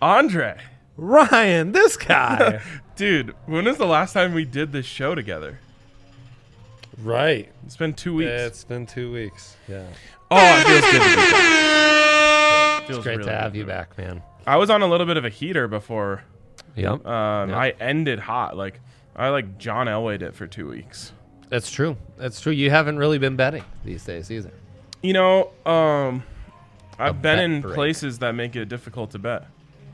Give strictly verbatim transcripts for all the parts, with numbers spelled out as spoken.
Andre. Ryan, this guy. Dude, when was the last time we did this show together? Right. It's been two weeks. It's been two weeks. Yeah. Oh, it feels good to be back. It's Feels great really to have good. you back, man. I was on a little bit of a heater before Yep. um, Yep. I ended hot. Like, I like John Elway'd it for two weeks. That's true. That's true. You haven't really been betting these days either. You know, um, I've A been bet in break. places that make it difficult to bet.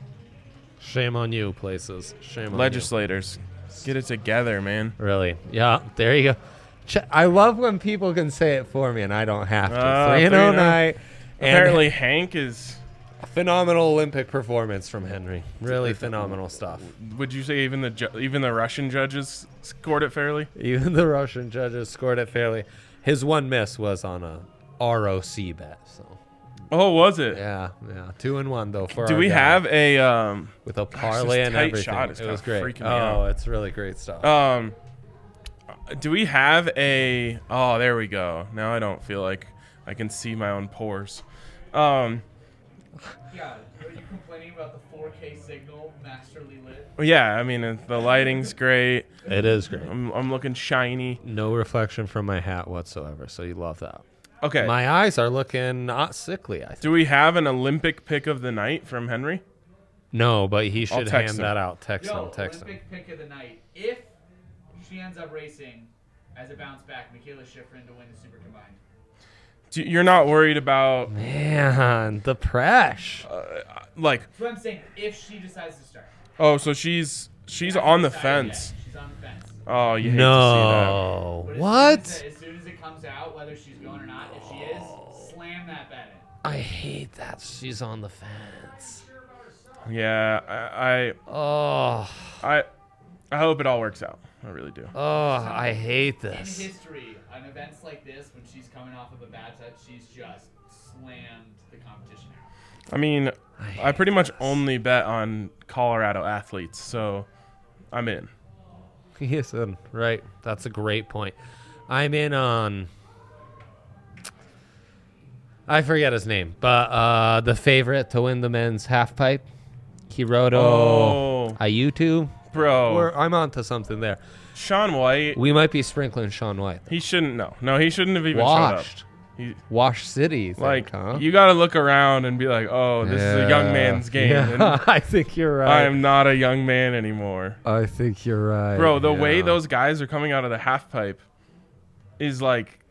Shame on you, places. Shame on Legislators, get it together, man. you. Really? Yeah. There you go. Ch- I love when people can say it for me and I don't have to. Uh, three and oh night. Apparently, Hank is. Phenomenal Olympic performance from Henry. Really phenomenal stuff. Would you say even the ju- even the Russian judges scored it fairly? Even the Russian judges scored it fairly. His one miss was on a R O C bet. So Oh, was it? yeah, yeah, two and one though for Do our we guy. have a um with a Gosh, parlay this and tight everything? shot is It was kinda great. freaking me Oh, out. it's really great stuff. um? Do we have a? Oh, there we go. Now I don't feel like I can see my own pores. Um. Yeah, are you complaining about the four K signal masterly lit? Yeah, I mean uh, the lighting's great. It is great. I'm I'm looking shiny. No reflection from my hat whatsoever, so you love that. Okay. My eyes are looking not sickly, I think. Do we have an Olympic pick of the night from Henry? No, but he should text hand him. that out. Text Yo, him, text him. Olympic pick of the night. If she ends up racing as a bounce back, Michaela Schifrin to win the Super Combined. Do, you're not worried about Man, the press. like That's what I'm saying. If she decides to start. oh, so she's she's Hasn't on the decided yet. fence. She's on the fence. Oh, you hate No. But as What? Soon as, it, as soon as it comes out, whether she's going or not, if she is, slam that bet in. I hate that she's on the fence. to see that. Yeah, I, Oh, I I I hope it all works out. I really do. oh, I hate In this. history, on events like this, when she's coming off of a bad touch, she's just slammed the competition out. I mean, I I pretty hate much this. only bet on Colorado athletes, so I'm in. Yes, um, right. That's a great point. I'm in on. I forget his name, but uh, the favorite to win the men's half pipe, Hiroto Oh. Ayutu. Bro, We're, I'm on to something there. Sean White, We might be sprinkling Sean White. he shouldn't know. No, he shouldn't have even Washed. showed up. He, Wash City, you think, like, huh? you got to look around and be like, oh, this is a young Yeah. man's game. Yeah, And I think you're right. I am not a young man anymore. I think you're right. Bro, the way yeah. those guys are coming out of the half pipe is like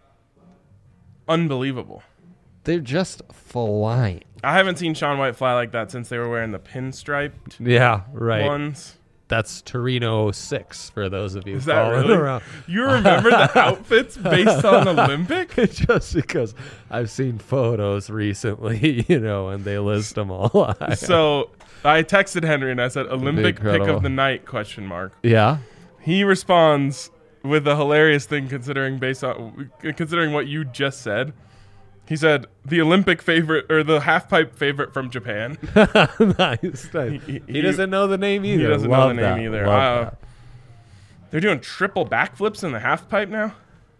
unbelievable. They're just flying. I haven't seen Sean White fly like that since they were wearing the pinstriped Yeah, right. ones. That's Torino six for those of you Is that following really? around. You remember the outfits based on Olympic? Just because I've seen photos recently, you know, and they list them all. So I texted Henry and I said Olympic pick Incredible. of the night question mark. yeah. He responds with a hilarious thing considering based on considering what you just said. He said the Olympic favorite or the half pipe favorite from Japan. nice, nice. He- He, he- doesn't know the name either. He doesn't Love know the name that. either. Love Uh, that. They're doing triple backflips in the half pipe now.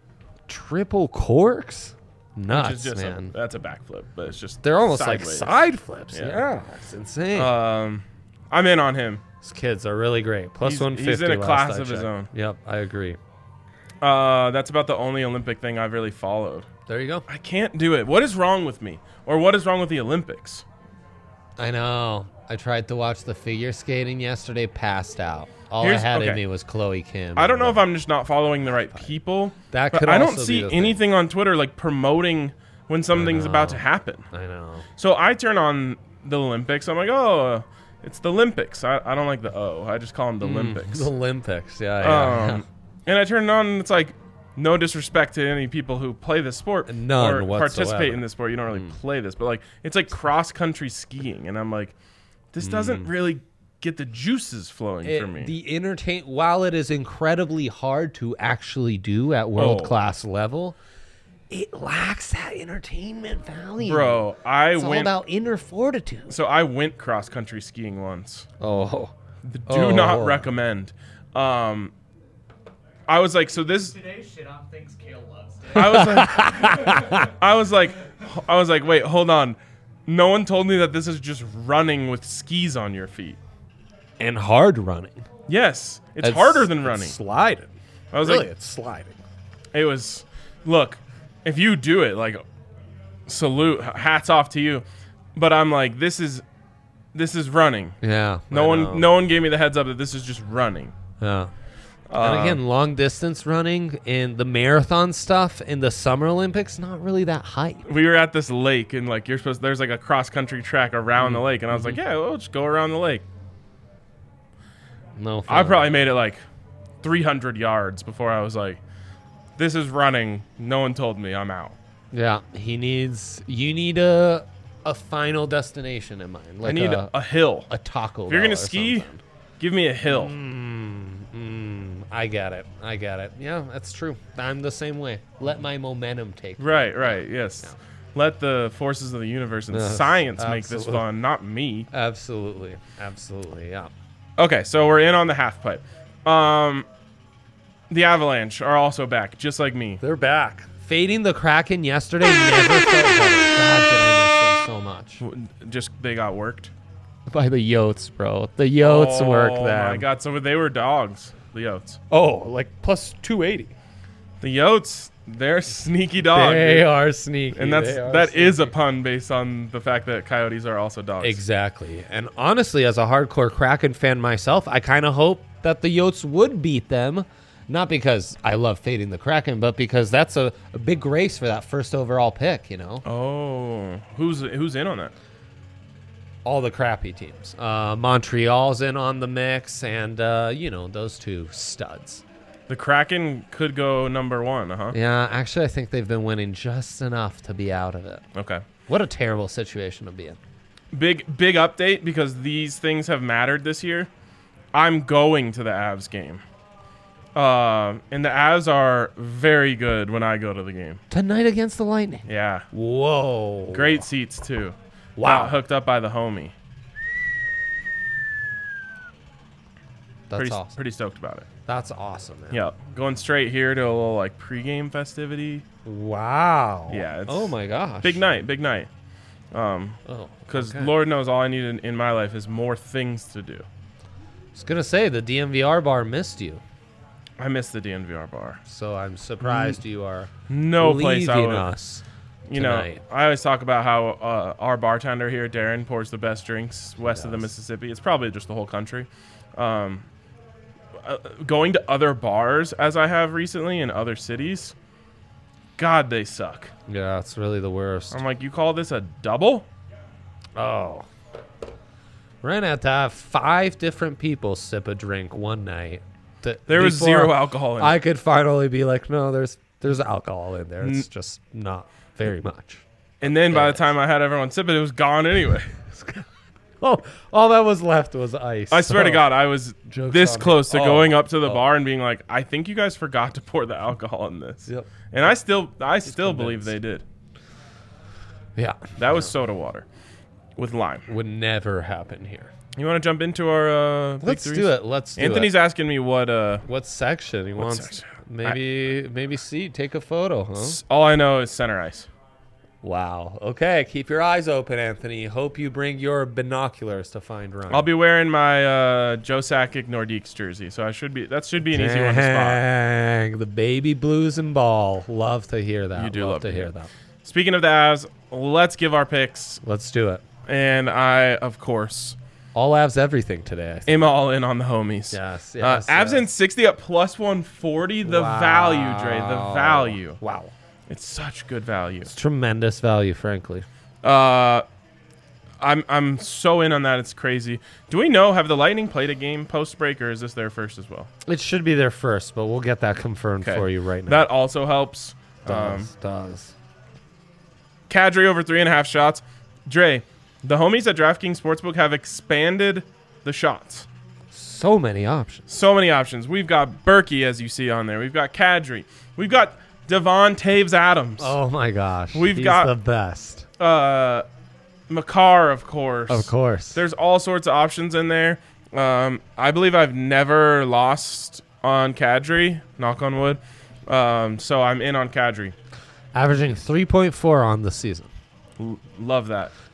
Triple corks? Which Nuts, is just a, man. that's a backflip, but it's just They're almost sideways. like side flips. Yeah. Yeah, it's insane. Um, I'm in on him. These kids are really great. Plus He's- one fifty. he's in a last class I of his checked. own. Yep, I agree. Uh, that's about the only Olympic thing I've really followed. There you go. I can't do it. What is wrong with me? Or what is wrong with the Olympics? I know. I tried to watch the figure skating yesterday, passed out. All Here's- I had in okay. me was Chloe Kim. I don't know if I'm just not following the right people. That but could I don't also be see the thing. anything on Twitter like promoting when something's about to know. happen. I know. So I turn on the Olympics. I'm like, oh, it's the Olympics. I, I don't like the O. I just call them the Olympics. The Olympics. Yeah, yeah. Um, and I turn it on, and it's like, no disrespect to any people who play this sport None or whatsoever. participate in this sport. You don't really play this, but like it's like cross country skiing, and I'm like, this doesn't really get the juices flowing It- for me. The entertain while it is incredibly hard to actually do at world class level, it lacks that entertainment value. Bro, I it's all went. about inner fortitude. so I went cross country skiing once. Oh, Do Oh. not recommend. Um, I was like, so this. Today's shit on things Kale loves. I was like, I was like, I was like, wait, hold on. no one told me that this is just running with skis on your feet. And hard running. Yes, it's, harder than it's running. sliding. I was really, like, it's sliding. it was. Look, if you do it, like, salute, hats off to you. But I'm like, this is, this is running. Yeah. No I one, know. no one gave me the heads up that this is just running. Yeah. Uh, And again, long distance running and the marathon stuff in the Summer Olympics, not really that hype. we were at this lake, and like you're supposed, there's like a cross country track around the lake, and I was like, yeah, we'll just go around the lake. No, I fun. probably made it like three hundred yards before I was like, this is running. No one told me. I'm out. Yeah, he needs. You need a a final destination in mind. Like I need a, a, a hill. a Taco. If you're Bell gonna or ski, something. give me a hill. Mm, mm, I get it. I get it. Yeah, that's true. I'm the same way. Let my momentum take. me. Right, right, yes. Yeah. Let the forces of the universe and Yes, science make this absolutely. fun, not me. Absolutely. Absolutely. Yeah. Okay, so we're in on the half pipe. Um, the Avalanche are also back, just like me. They're back. Fading the Kraken yesterday never felt better. God, did I miss them so much. W- Just they got worked. By the Yotes, bro. The Yotes work Oh them. my god! So they were dogs. The Yotes. Oh, like plus two eighty. The Yotes, they're sneaky dogs. They are sneaky. and that's They are that is a sneaky. pun based on the fact that Coyotes are also dogs. Exactly. And honestly, as a hardcore Kraken fan myself, I kind of hope that the Yotes would beat them. Not because I love fading the Kraken, but because that's a, a big race for that first overall pick, you know? Oh, who's who's in on that? All the crappy teams. Uh, Montreal's in on the mix, and, uh, you know, those two studs. The Kraken could go number one, uh huh. Yeah, actually, I think they've been winning just enough to be out of it. Okay. What a terrible situation to be in. Big big update because these things have mattered this year. I'm going to the Avs game. Uh, and the Avs are very good when I go to the game. Tonight against the Lightning. Yeah. Whoa. Great seats too. Wow. Got hooked up by the homie. That's pretty awesome. pretty stoked about it. That's awesome, man. Yep. Going straight here to a little like pregame festivity. Wow. Yeah, it's- oh my gosh. Big night, big night. Um, Oh. because okay. Lord knows all I need in, in my life is more things to do. I was gonna say the D M V R bar missed you, I miss the D N V R bar. so I'm surprised you are No place I leaving would. us. You know, tonight. I always talk about how uh, our bartender here, Darren, pours the best drinks west of the Yes. Mississippi. It's probably just the whole country. Um, uh, going to other bars, as I have recently in other cities, God, they suck. Yeah, it's really the worst. I'm like, you call this a double? Oh. We're gonna have to have five different people sip a drink one night. to- There was before zero alcohol in it. I could finally be like, no, there's there's alcohol in there. It's N- just not very much. And then by There the time I had everyone sip it, it was gone anyway. Oh, all that was left was ice. I swear to So- God, I was Joke's this on me. close to Oh, going up to the oh. bar and being like, I think you guys forgot to pour the alcohol in this. Yep. And I still, I still believe convinced. they did. Yeah, That was soda water with lime. would never happen here. You want to jump into our uh, big Let's threes? do it. Let's do Anthony's it. asking me what. Uh, What section he wants? section? Maybe maybe see take a photo, huh? s- all I know is center ice. Wow. Okay, keep your eyes open, Anthony. Hope you bring your binoculars to find Ryan. I'll be wearing my uh, Joe Sakic Nordiques jersey, so I should be. That should be an easy one to spot. Dang, the baby blues and ball. Love to hear that. You do love to to hear hear that. Speaking of the Avs, let's give our picks, Let's do it. and I, of course, All Avs everything today. I think. am all in on the homies. Yes, Uh, yes. Avs in yes. sixty at plus one forty. The value, Dre. The Wow. value. Wow. It's such good value. It's tremendous value, frankly. Uh, I'm I'm so in on that. It's crazy. Do we know, have the Lightning played a game post break, or is this their first as well? It should be there first, but we'll get that confirmed Okay. for you right now. That also helps. Um, does, does. Kadri over three and a half shots. Dre, the homies at DraftKings Sportsbook have expanded the shots. So many options. So many options. We've got Berkey, as you see on there. We've got Kadri. We've got Devon Taves Adams. Oh my gosh. We've He's got- the best. Uh, Makar, of course. Of course. There's all sorts of options in there. Um, I believe I've never lost on Kadri, knock on wood. Um, so I'm in on Kadri. Averaging three point four on the season. L- love that.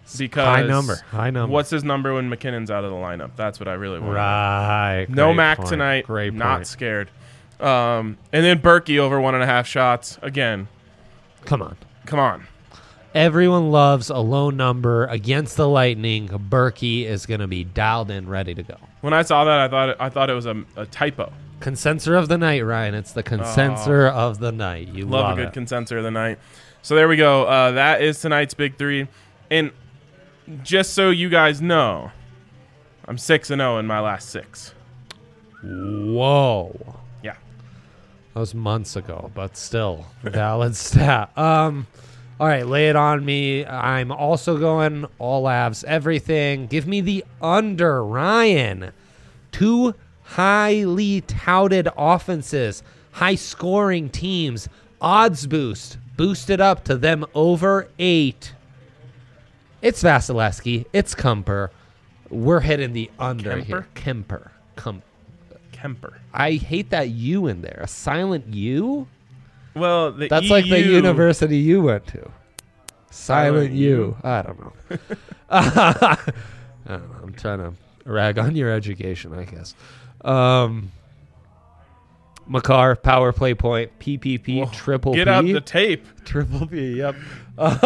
because High number. High number. What's his number when McKinnon's out of the lineup? That's what I really want. Right. No Great Mac point. tonight. Great Not point. scared. Um, and then Berkey over one and a half shots. Again, Come on. come on. Everyone loves a low number against the Lightning. Berkey is going to be dialed in, ready to go. When I saw that, I thought it, I thought it was a, a typo. Consensor of the night, Ryan. It's the consensor of the night. You Love, love, a good it. consensor of the night. So there we go. Uh, that is tonight's big three. And just so you guys know, I'm six and zero in my last six. Whoa. Yeah. That was months ago, but still valid stat. Um, all right, lay it on me. I'm also going all Avs, everything. Give me the under, Ryan. Two highly touted offenses, high scoring teams, odds boost, boosted up to them over eight. It's Vasilevsky. It's Kemper. We're hitting the under Kemper? here. Kemper. Kemper. Kemper. I hate that U in there. A silent U? Well, the That's E like the U university you went to. Silent Silent U. U. I don't know. I don't know. I'm trying to rag on your education, I guess. Um, Makar, power play point, P P P, Well, triple Get P. out the tape. Triple P, yep. Get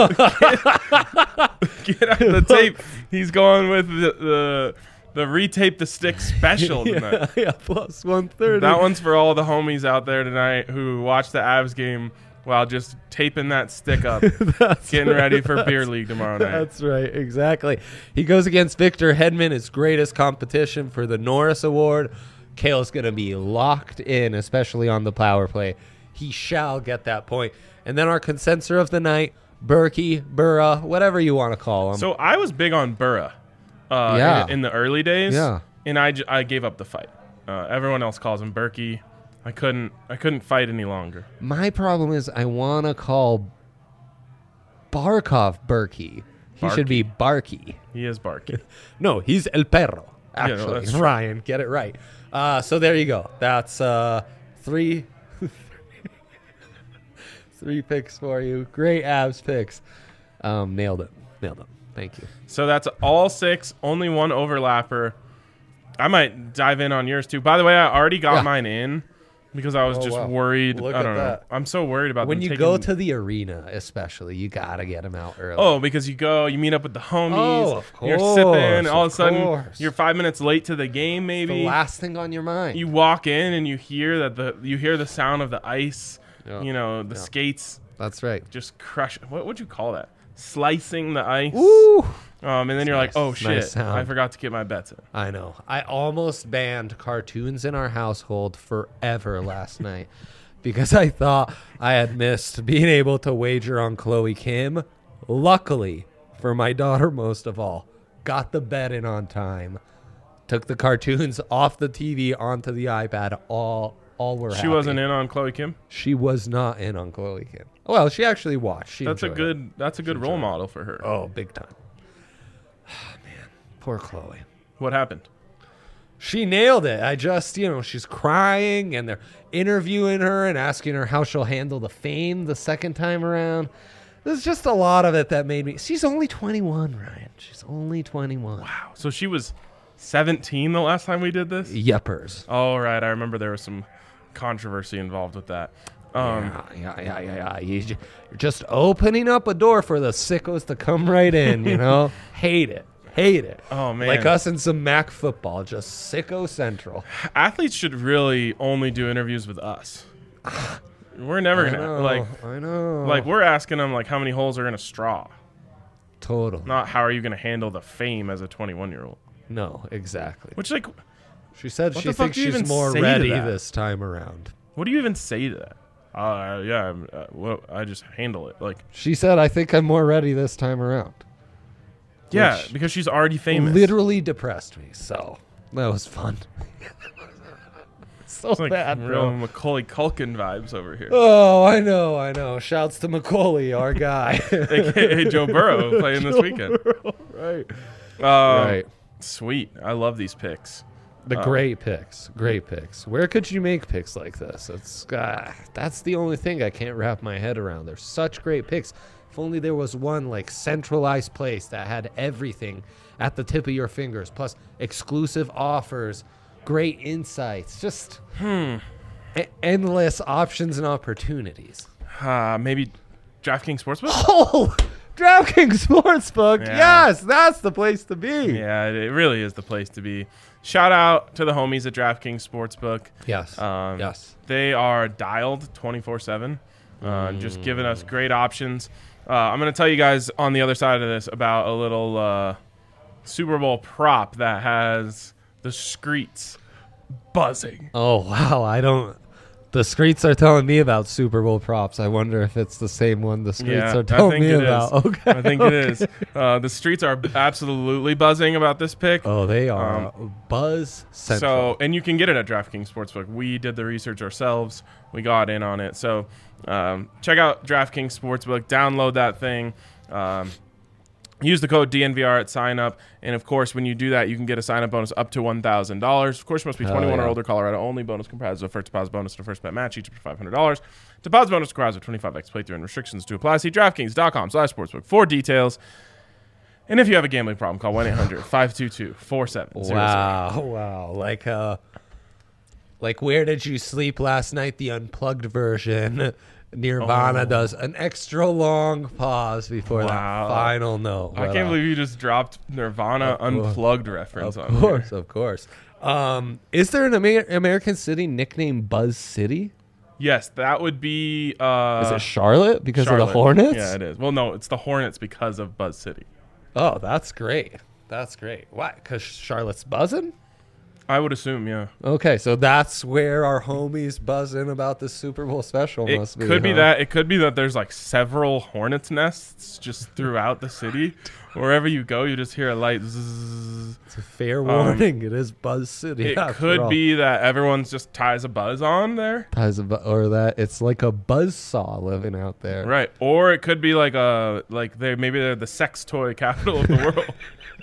out the tape. He's going with the the, the retape the stick special tonight. yeah, yeah, plus one thirty. That one's for all the homies out there tonight who watch the Avs game while just taping that stick up, getting ready for beer league tomorrow night. That's right, exactly. He goes against Victor Hedman, his greatest competition for the Norris Award. Kale's going to be locked in, especially on the power play. He shall get that point. And then our consensor of the night, Berkey, Burra, whatever you want to call him. So I was big on Burra uh, Yeah. in, in the early days, Yeah. and I, j- I gave up the fight. Uh, everyone else calls him Berkey. I couldn't I couldn't fight any longer. My problem is I want to call Barkov Berkey. He should be Barkey. He is Barkey. No, he's El Perro. Yeah, no, Actually, that's true. Ryan, get it right. Uh, so there you go. That's uh, three, three picks for you. Great abs picks. Um, nailed it. Nailed it. Thank you. So that's all six, only one overlapper. I might dive in on yours too. By the way, I already got Yeah. mine in because I was Oh, just wow. worried. Look I at don't know. that. I'm so worried about When them you taking, go to the arena, especially, you gotta get them out early. Oh, because you go, you meet up with the homies. Oh, of You're sipping. course, All of of a sudden, course. you're five minutes late to the game. Maybe the last thing on your mind. you walk in and you hear that the you hear the sound of the ice. Yeah. You know the Yeah. skates That's right. just crush. What would you call that? Slicing the ice. Woo! Um, and then you're nice. like, oh Nice shit, sound. I forgot to get my bets in. I know. I almost banned cartoons in our household forever last night because I thought I had missed being able to wager on Chloe Kim. Luckily, for my daughter most of all, got the bet in on time. Took the cartoons off the T V onto the iPad. All all were She happy. wasn't in on Chloe Kim. She was not in on Chloe Kim. Well, she actually watched. She That's a enjoyed good. it. That's a good role model for her. Oh, big time. Man, poor Chloe. What happened? She nailed it. I just, you know, she's crying and they're interviewing her and asking her how she'll handle the fame the second time around. There's just a lot of it that made me. She's only twenty-one, Ryan. She's only twenty-one. Wow. So she was seventeen the last time we did this? Yuppers. Oh, right. I remember there was some controversy involved with that. Um, yeah, yeah, yeah, yeah, yeah. You ju- You're just opening up a door for the sickos to come right in, you know? Hate it. Hate it. Oh, man. Like us in some Mac football, just sicko central. Athletes should really only do interviews with us. We're never I going to, know, like, I know. like, we're asking them, like, how many holes are in a straw? Total. Not how are you going to handle the fame as a twenty-one-year-old. No, exactly. Which, like, She said What she the fuck thinks do you she's even more say to ready that? this time around. what do you even say to that? Uh, yeah, I'm, uh, well, I just handle it. Like, She said, I think I'm more ready this time around. yeah, Which because she's already famous. Literally depressed me, so that was fun. so It's like bad, real bro. Macaulay Culkin vibes over here. Oh, I know, I know. Shouts to Macaulay, our guy. A K A Joe Burrow playing this weekend. right. Um, right. Sweet. I love these picks. The Uh, great picks. Great picks. Where could you make picks like this? It's uh, That's the only thing I can't wrap my head around. They're such great picks. If only there was one like centralized place that had everything at the tip of your fingers, plus exclusive offers, great insights, just Hmm. e- endless options and opportunities. Uh, maybe DraftKings Sportsbook? Oh, DraftKings Sportsbook. Yeah. Yes, that's the place to be. Yeah, it, it really is the place to be. Shout out to the homies at DraftKings Sportsbook. Yes. Um, yes. They are dialed twenty-four seven, uh, just giving us great options. Uh, I'm going to tell you guys on the other side of this about a little uh, Super Bowl prop that has the streets buzzing. Oh, wow. I don't. The streets are telling me about Super Bowl props. I wonder if it's the same one the streets Yeah, are I telling think me it about. is. Okay. I think okay. it is. Uh, the streets are absolutely buzzing about this pick. Oh, they are Buzz Central. So, and you can get it at DraftKings Sportsbook. We did the research ourselves. We got in on it. So, um, check out DraftKings Sportsbook. Download that thing. Um, use the code D N V R at sign up. And, of course, when you do that, you can get a sign-up bonus up to one thousand dollars. Of course, you must be Hell twenty-one or yeah. older. Colorado only. Bonus comprised of a first deposit bonus and a first bet match, each up to five hundred dollars. Deposit bonus requires a twenty-five x playthrough and restrictions to apply. See DraftKings.com slash sportsbook for details. And if you have a gambling problem, call one eight hundred five two two four seven zero zero. Wow, wow. Like uh like Where Did You Sleep Last Night, the unplugged version. Nirvana Oh. does an extra long pause before Wow. that final note. I But, can't uh, believe you just dropped Nirvana Of course. Unplugged reference Of on course, here. of course. Um, is there an Amer- American city nicknamed Buzz City? Yes, that would be uh, Is it Charlotte because Charlotte. of the Hornets? Yeah, it is. Well, no, it's the Hornets because of Buzz City. Oh, that's great. That's great. Why? Because Charlotte's buzzing? I would assume, yeah. Okay, so that's where our homies buzzing about the Super Bowl special It must be. could be huh? that. It could be that there's like several Hornets nests just throughout the city. Wherever you go, you just hear a light zzz. It's a fair warning. it is Buzz City. It after could all. be that everyone's just ties a buzz on there. Ties of bu- or that it's like a buzz saw living out there. Right. Or it could be like a like they maybe they're the sex toy capital of the world.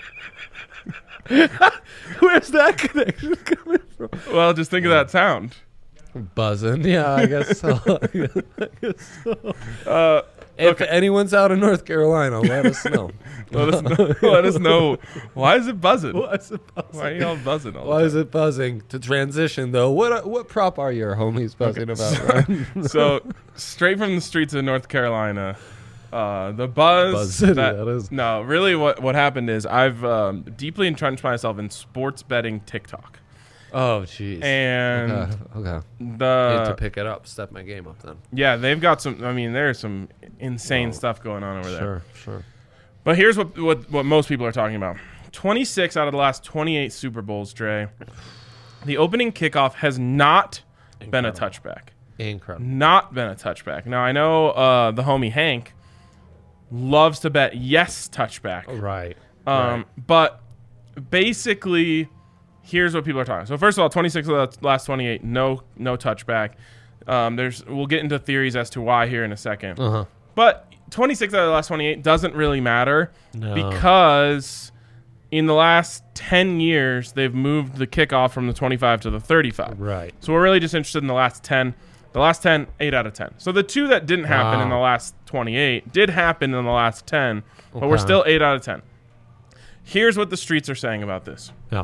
Where's that connection coming from? Well, just think of that sound. Buzzing. Yeah, I guess so. I guess so. Uh, If okay. anyone's out in North Carolina, let us know. Let us know. Let us know. Why is it buzzing? Why is it buzzing? Why are y'all buzzing all Why the is it buzzing? To transition though, what what prop are your homies buzzing about? Ryan? time? So, straight from the streets of North Carolina, uh, the buzz. Buzz City, that, that is. No, really, what what happened is I've um, deeply entrenched myself in sports betting TikTok, Oh, jeez. and okay. okay. Need to the pick it up. Step my game up then. yeah, they've got some. I mean, there's some insane Whoa. stuff going on over there. Sure, sure. But here's what, what what most people are talking about. twenty-six out of the last twenty-eight Super Bowls, Dre. The opening kickoff has not been a Incredible. touchback. Incredible. Not been a touchback. Now, I know uh, the homie Hank loves to bet yes touchback. Right. Um, right. But basically, here's what people are talking. So first of all, twenty-six of the last twenty-eight, no no touchback. Um, there's we'll get into theories as to why here in a second. Uh huh. But twenty-six out of the last twenty-eight doesn't really matter No. because in the last ten years, they've moved the kickoff from the twenty-five to the thirty-five. Right. So we're really just interested in the last ten. The last ten, eight out of ten. So the two that didn't happen Wow. in the last twenty-eight did happen in the last ten, but we're Okay. still eight out of ten. Here's what the streets are saying about this. Yeah.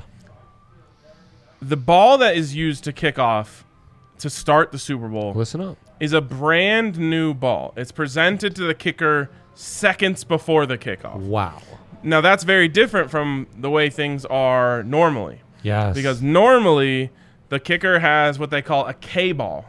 The ball that is used to kick off to start the Super Bowl Listen up. is a brand new ball. It's presented to the kicker seconds before the kickoff. Wow. Now, that's very different from the way things are normally. Yes. Because normally, the kicker has what they call a K ball.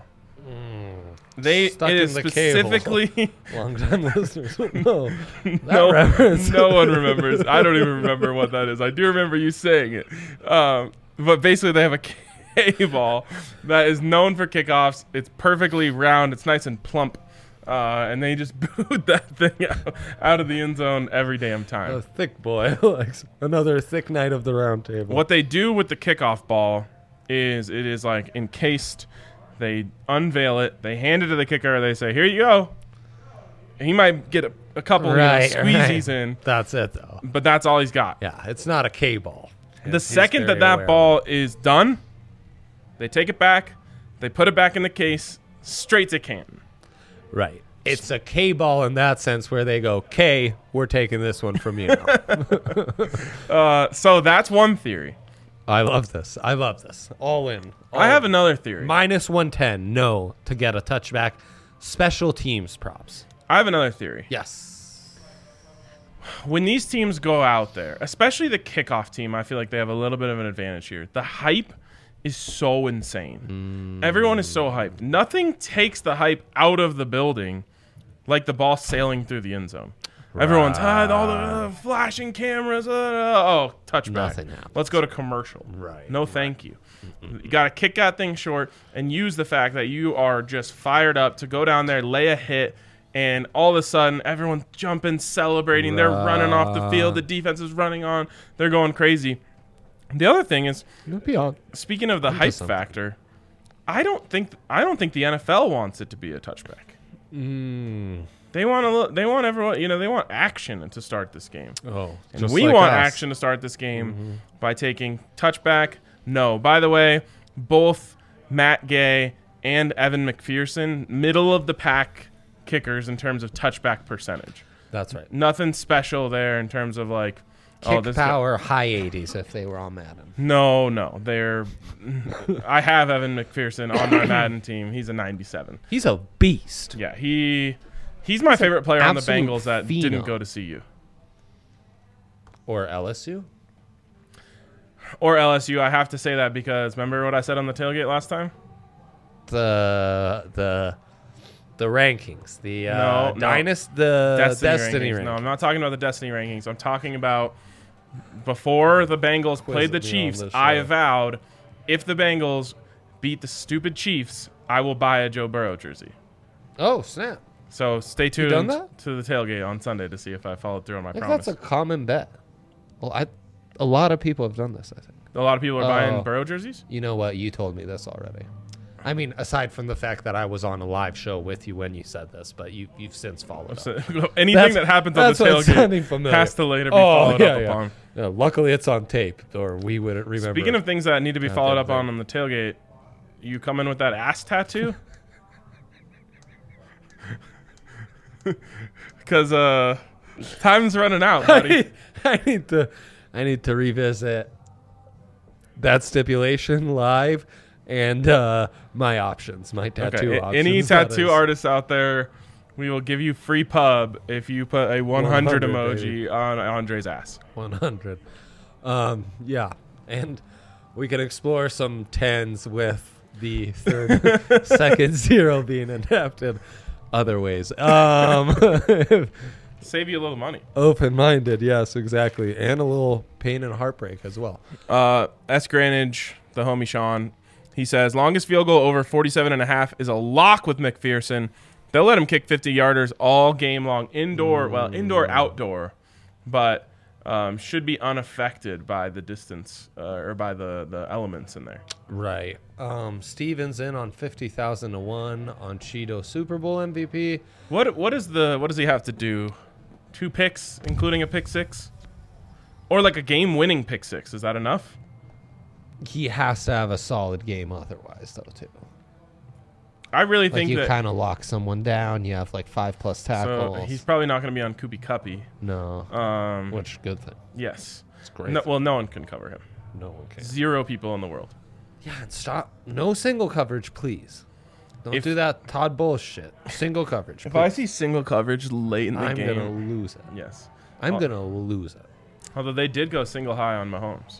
They Stuck it in is the K-hole. specifically long-time listeners will know. That no, reference. no one remembers. I don't even remember what that is. I do remember you saying it. Um, but basically, they have a K ball that is known for kickoffs. It's perfectly round. It's nice and plump. Uh, and they just boot that thing out, out of the end zone every damn time. A thick boy. Like another thick night of the round table. What they do with the kickoff ball is it is like encased. They unveil it. They hand it to the kicker. They say, "Here you go." He might get a, a couple Right, you know, squeezies right. in, That's it, though. but that's all he's got. Yeah, it's not a K ball. The second that that ball is done, they take it back. They put it back in the case, straight to Canton. Right. It's a K ball in that sense where they go, K, we're taking this one from you. Uh, so that's one theory. I love this. I love this. All in. All I have in. another theory. Minus one ten, no, to get a touchback. Special teams props. I have another theory. Yes. When these teams go out there, especially the kickoff team, I feel like they have a little bit of an advantage here. The hype is so insane. Mm. Everyone is so hyped. Nothing takes the hype out of the building like the ball sailing through the end zone. Right. Everyone's ah, all the uh, flashing cameras. Uh, oh, touchback. Nothing happens. Let's go to commercial. Right. No, thank you. Mm-mm. You got to kick that thing short and use the fact that you are just fired up to go down there, lay a hit, and all of a sudden everyone's jumping, celebrating. Right. They're running off the field. The defense is running on. They're going crazy. The other thing is, speaking of the hype factor, I don't think I don't think the N F L wants it to be a touchback. Mm. They want to. They want everyone. You know, they want action to start this game. Oh, and just we like want us. action to start this game mm-hmm. by taking touchback. No, by the way, both Matt Gay and Evan McPherson, middle of the pack kickers in terms of touchback percentage. That's right. Nothing special there in terms of like. Kick oh, this power, high eighties if they were on Madden. No, no. They're. I have Evan McPherson on my Madden team. He's a ninety-seven. He's a beast. Yeah, he he's my he's favorite player on the Bengals that phenom. didn't go to C U. Or L S U? Or L S U. I have to say that because remember what I said on the tailgate last time? The the the rankings. The uh, no, no. Dynasty, the Destiny, Destiny rankings. rankings. No, I'm not talking about the Destiny rankings. I'm talking about before the Bengals played the Chiefs, I vowed if the Bengals beat the stupid Chiefs, I will buy a Joe Burrow jersey. Oh, snap. So stay tuned done that? to the tailgate on Sunday to see if I followed through on my I think promise. that's a common bet. Well, I, a lot of people have done this, I think. A lot of people are Oh. buying Burrow jerseys? You know what? You told me this already. I mean, aside from the fact that I was on a live show with you when you said this, but you, you've since followed So, up. anything That's- that happens on that's the what's sounding tailgate familiar. has to later be Oh, followed yeah, up yeah. upon. Yeah, luckily, it's on tape, or we wouldn't remember. Speaking of things that need to be Not followed that up on big. on the tailgate, you come in with that ass tattoo? Because uh, time's running out, buddy. I need to, I need to revisit that stipulation live and uh, my options, my tattoo Okay. options. Any that tattoo is. artists out there, we will give you free pub if you put a one hundred, one hundred emoji baby. on Andre's ass. one hundred. Um, yeah, and we can explore some tens with the third, second zero being adapted other ways. Um, Save you a little money. open-minded, yes, exactly, and a little pain and heartbreak as well. Uh, S. Granage, the homie Sean, he says, longest field goal over forty-seven and a half is a lock with McPherson. They'll let him kick fifty-yarders all game long, indoor, well, indoor, outdoor, but um, should be unaffected by the distance uh, or by the, the elements in there. Right. Um, Stevens in on fifty thousand to one on Cheeto Super Bowl M V P. What what is the what does he have to do? Two picks, including a pick six, or like a game-winning pick six? Is that enough? He has to have a solid game otherwise, though, too. I really Like think you that. kind of lock someone down. You have like five plus So tackles. he's probably not going to be on Kupi Cuppy. no, Um, which good thing. yes. It's great. No, well, no one can cover him. No one can. Zero people in the world. Yeah, and stop. No single coverage, please. Don't If- do that Todd Bowles shit. Single coverage. If please. I see single coverage late in the I'm game, gonna lose it. yes. I'm Oh. gonna lose it. Although they did go single high on Mahomes.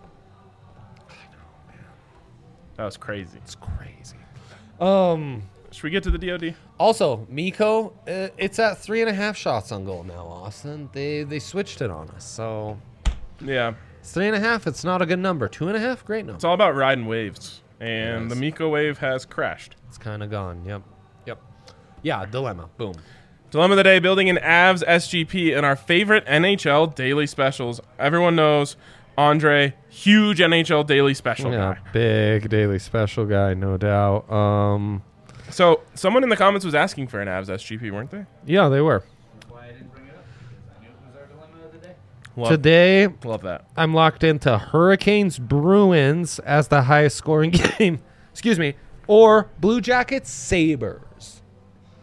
That was crazy. It's crazy. Um. Should we get to the D O D? Also, Miko, uh, it's at three and a half shots on goal now. Austin, they they switched it on us. So Yeah. it's three and a half. It's not a good number. Two and a half, great number. It's all about riding waves. And Yes. the Miko wave has crashed. It's kind of gone. Yep. Yep. Yeah. Dilemma. Boom. Dilemma of the day, building an Avs S G P in our favorite N H L daily specials. Everyone knows Andre, huge N H L daily special Yeah. guy. Big daily special guy, no doubt. Um. So someone in the comments was asking for an Avs S G P, weren't they? Yeah, they were. That's why I didn't bring it up. I knew it was our dilemma of the day. Love, Today, love that. I'm locked into Hurricanes Bruins as the highest scoring game. Excuse me. Or Blue Jackets Sabres.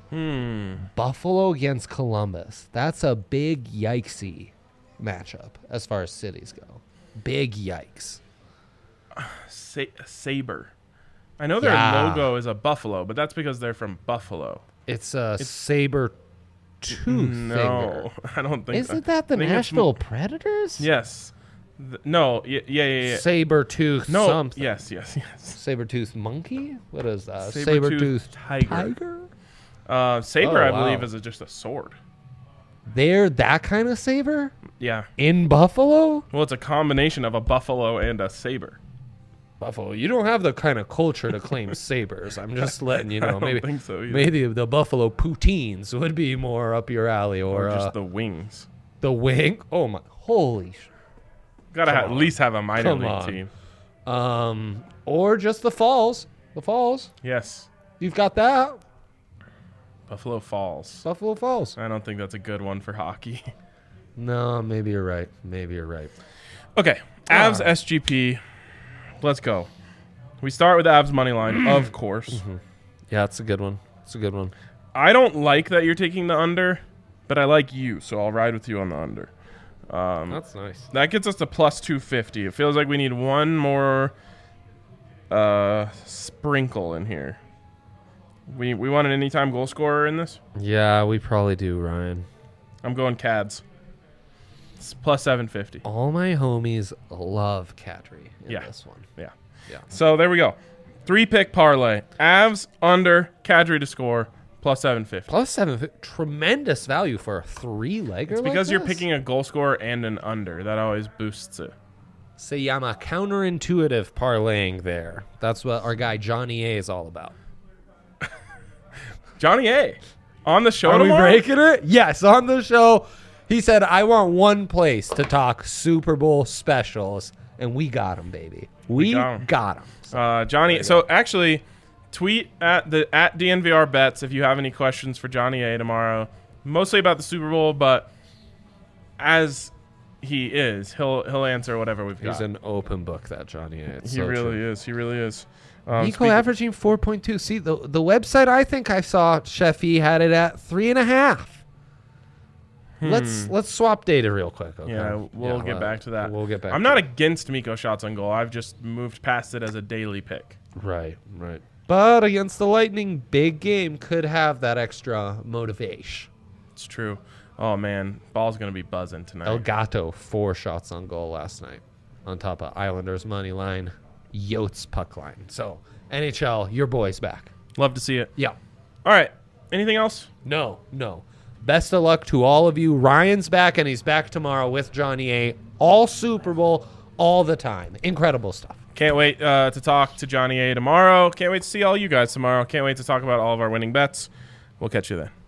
Hmm. Buffalo against Columbus. That's a big yikesy matchup as far as cities go. Big yikes. Sa- Saber. I know their Yeah. logo is a buffalo, but that's because they're from Buffalo. It's a saber tooth No, I don't think. Isn't that the I think it's Nashville mo- Predators? Yes. Th- no. Y- yeah. Yeah. Yeah. Saber tooth No. something. Yes. Yes. Yes. Saber tooth monkey? What is that? Saber-tooth Saber tooth tiger. tiger? Uh, saber, Oh, I wow. believe, is a, just a sword. They're that kind of saber? Yeah. In Buffalo? Well, it's a combination of a buffalo and a saber. Buffalo, you don't have the kind of culture to claim sabers. I'm just letting you I know. don't Maybe think so either. maybe the Buffalo poutines would be more up your alley, or, Or just uh, the wings. the wing. Oh my, holy, sh- Gotta come ha- at on. least have a minor Come league on. team. um, or just the Falls. The Falls. Yes. You've got that. Buffalo Falls. Buffalo Falls. I don't think that's a good one for hockey. No, maybe you're right. Maybe you're right. Okay. Avs Alright. S G P. Let's go. We start with Avs money line, of course. Yeah, it's a good one. It's a good one. I don't like that you're taking the under, but I like you, so I'll ride with you on the under. Um, That's nice. that gets us to plus two fifty. It feels like we need one more uh, sprinkle in here. We we want an anytime goal scorer in this? Yeah, we probably do, Ryan. I'm going Cads. It's plus seven fifty. All my homies love Kadri in Yeah. this one. Yeah. Yeah. So there we go. Three pick parlay. Avs under, Kadri to score, plus seven fifty. Plus seven, fi- tremendous value for a three-legger. It's like because you're this. picking a goal scorer and an under. That always boosts it. Se llama counterintuitive parlaying there. That's what our guy Johnny A is all about. Johnny A. On the show Are we tomorrow? breaking it? Yes, on the show. He said, I want one place to talk Super Bowl specials, and we got him, baby. We, got 'em. got him. Uh, Johnny. So actually, tweet at the at D N V R bets if you have any questions for Johnny A tomorrow. Mostly about the Super Bowl, but as he is, he'll he'll answer whatever we've He's got. an open book, that Johnny A. It's he so really true. is. He really is. Um, Nico speaking- averaging four point two. See, the, the website I think I saw, Sheffy, had it at three and a half. Let's let's swap data real quick. Okay? Hmm. Yeah, we'll get uh, back to that. We'll get back I'm to not that. against Miko shots on goal. I've just moved past it as a daily pick. Right, right. But against the Lightning, big game could have that extra motivation. It's true. Oh man, ball's gonna be buzzing tonight. El Gato, four shots on goal last night, on top of Islanders money line, Yotes puck line. So N H L, your boy's back. Love to see it. Yeah. All right. Anything else? No, no. Best of luck to all of you. Ryan's back, and he's back tomorrow with Johnny A. All Super Bowl, all the time. Incredible stuff. Can't wait uh, to talk to Johnny A tomorrow. Can't wait to see all you guys tomorrow. Can't wait to talk about all of our winning bets. We'll catch you then.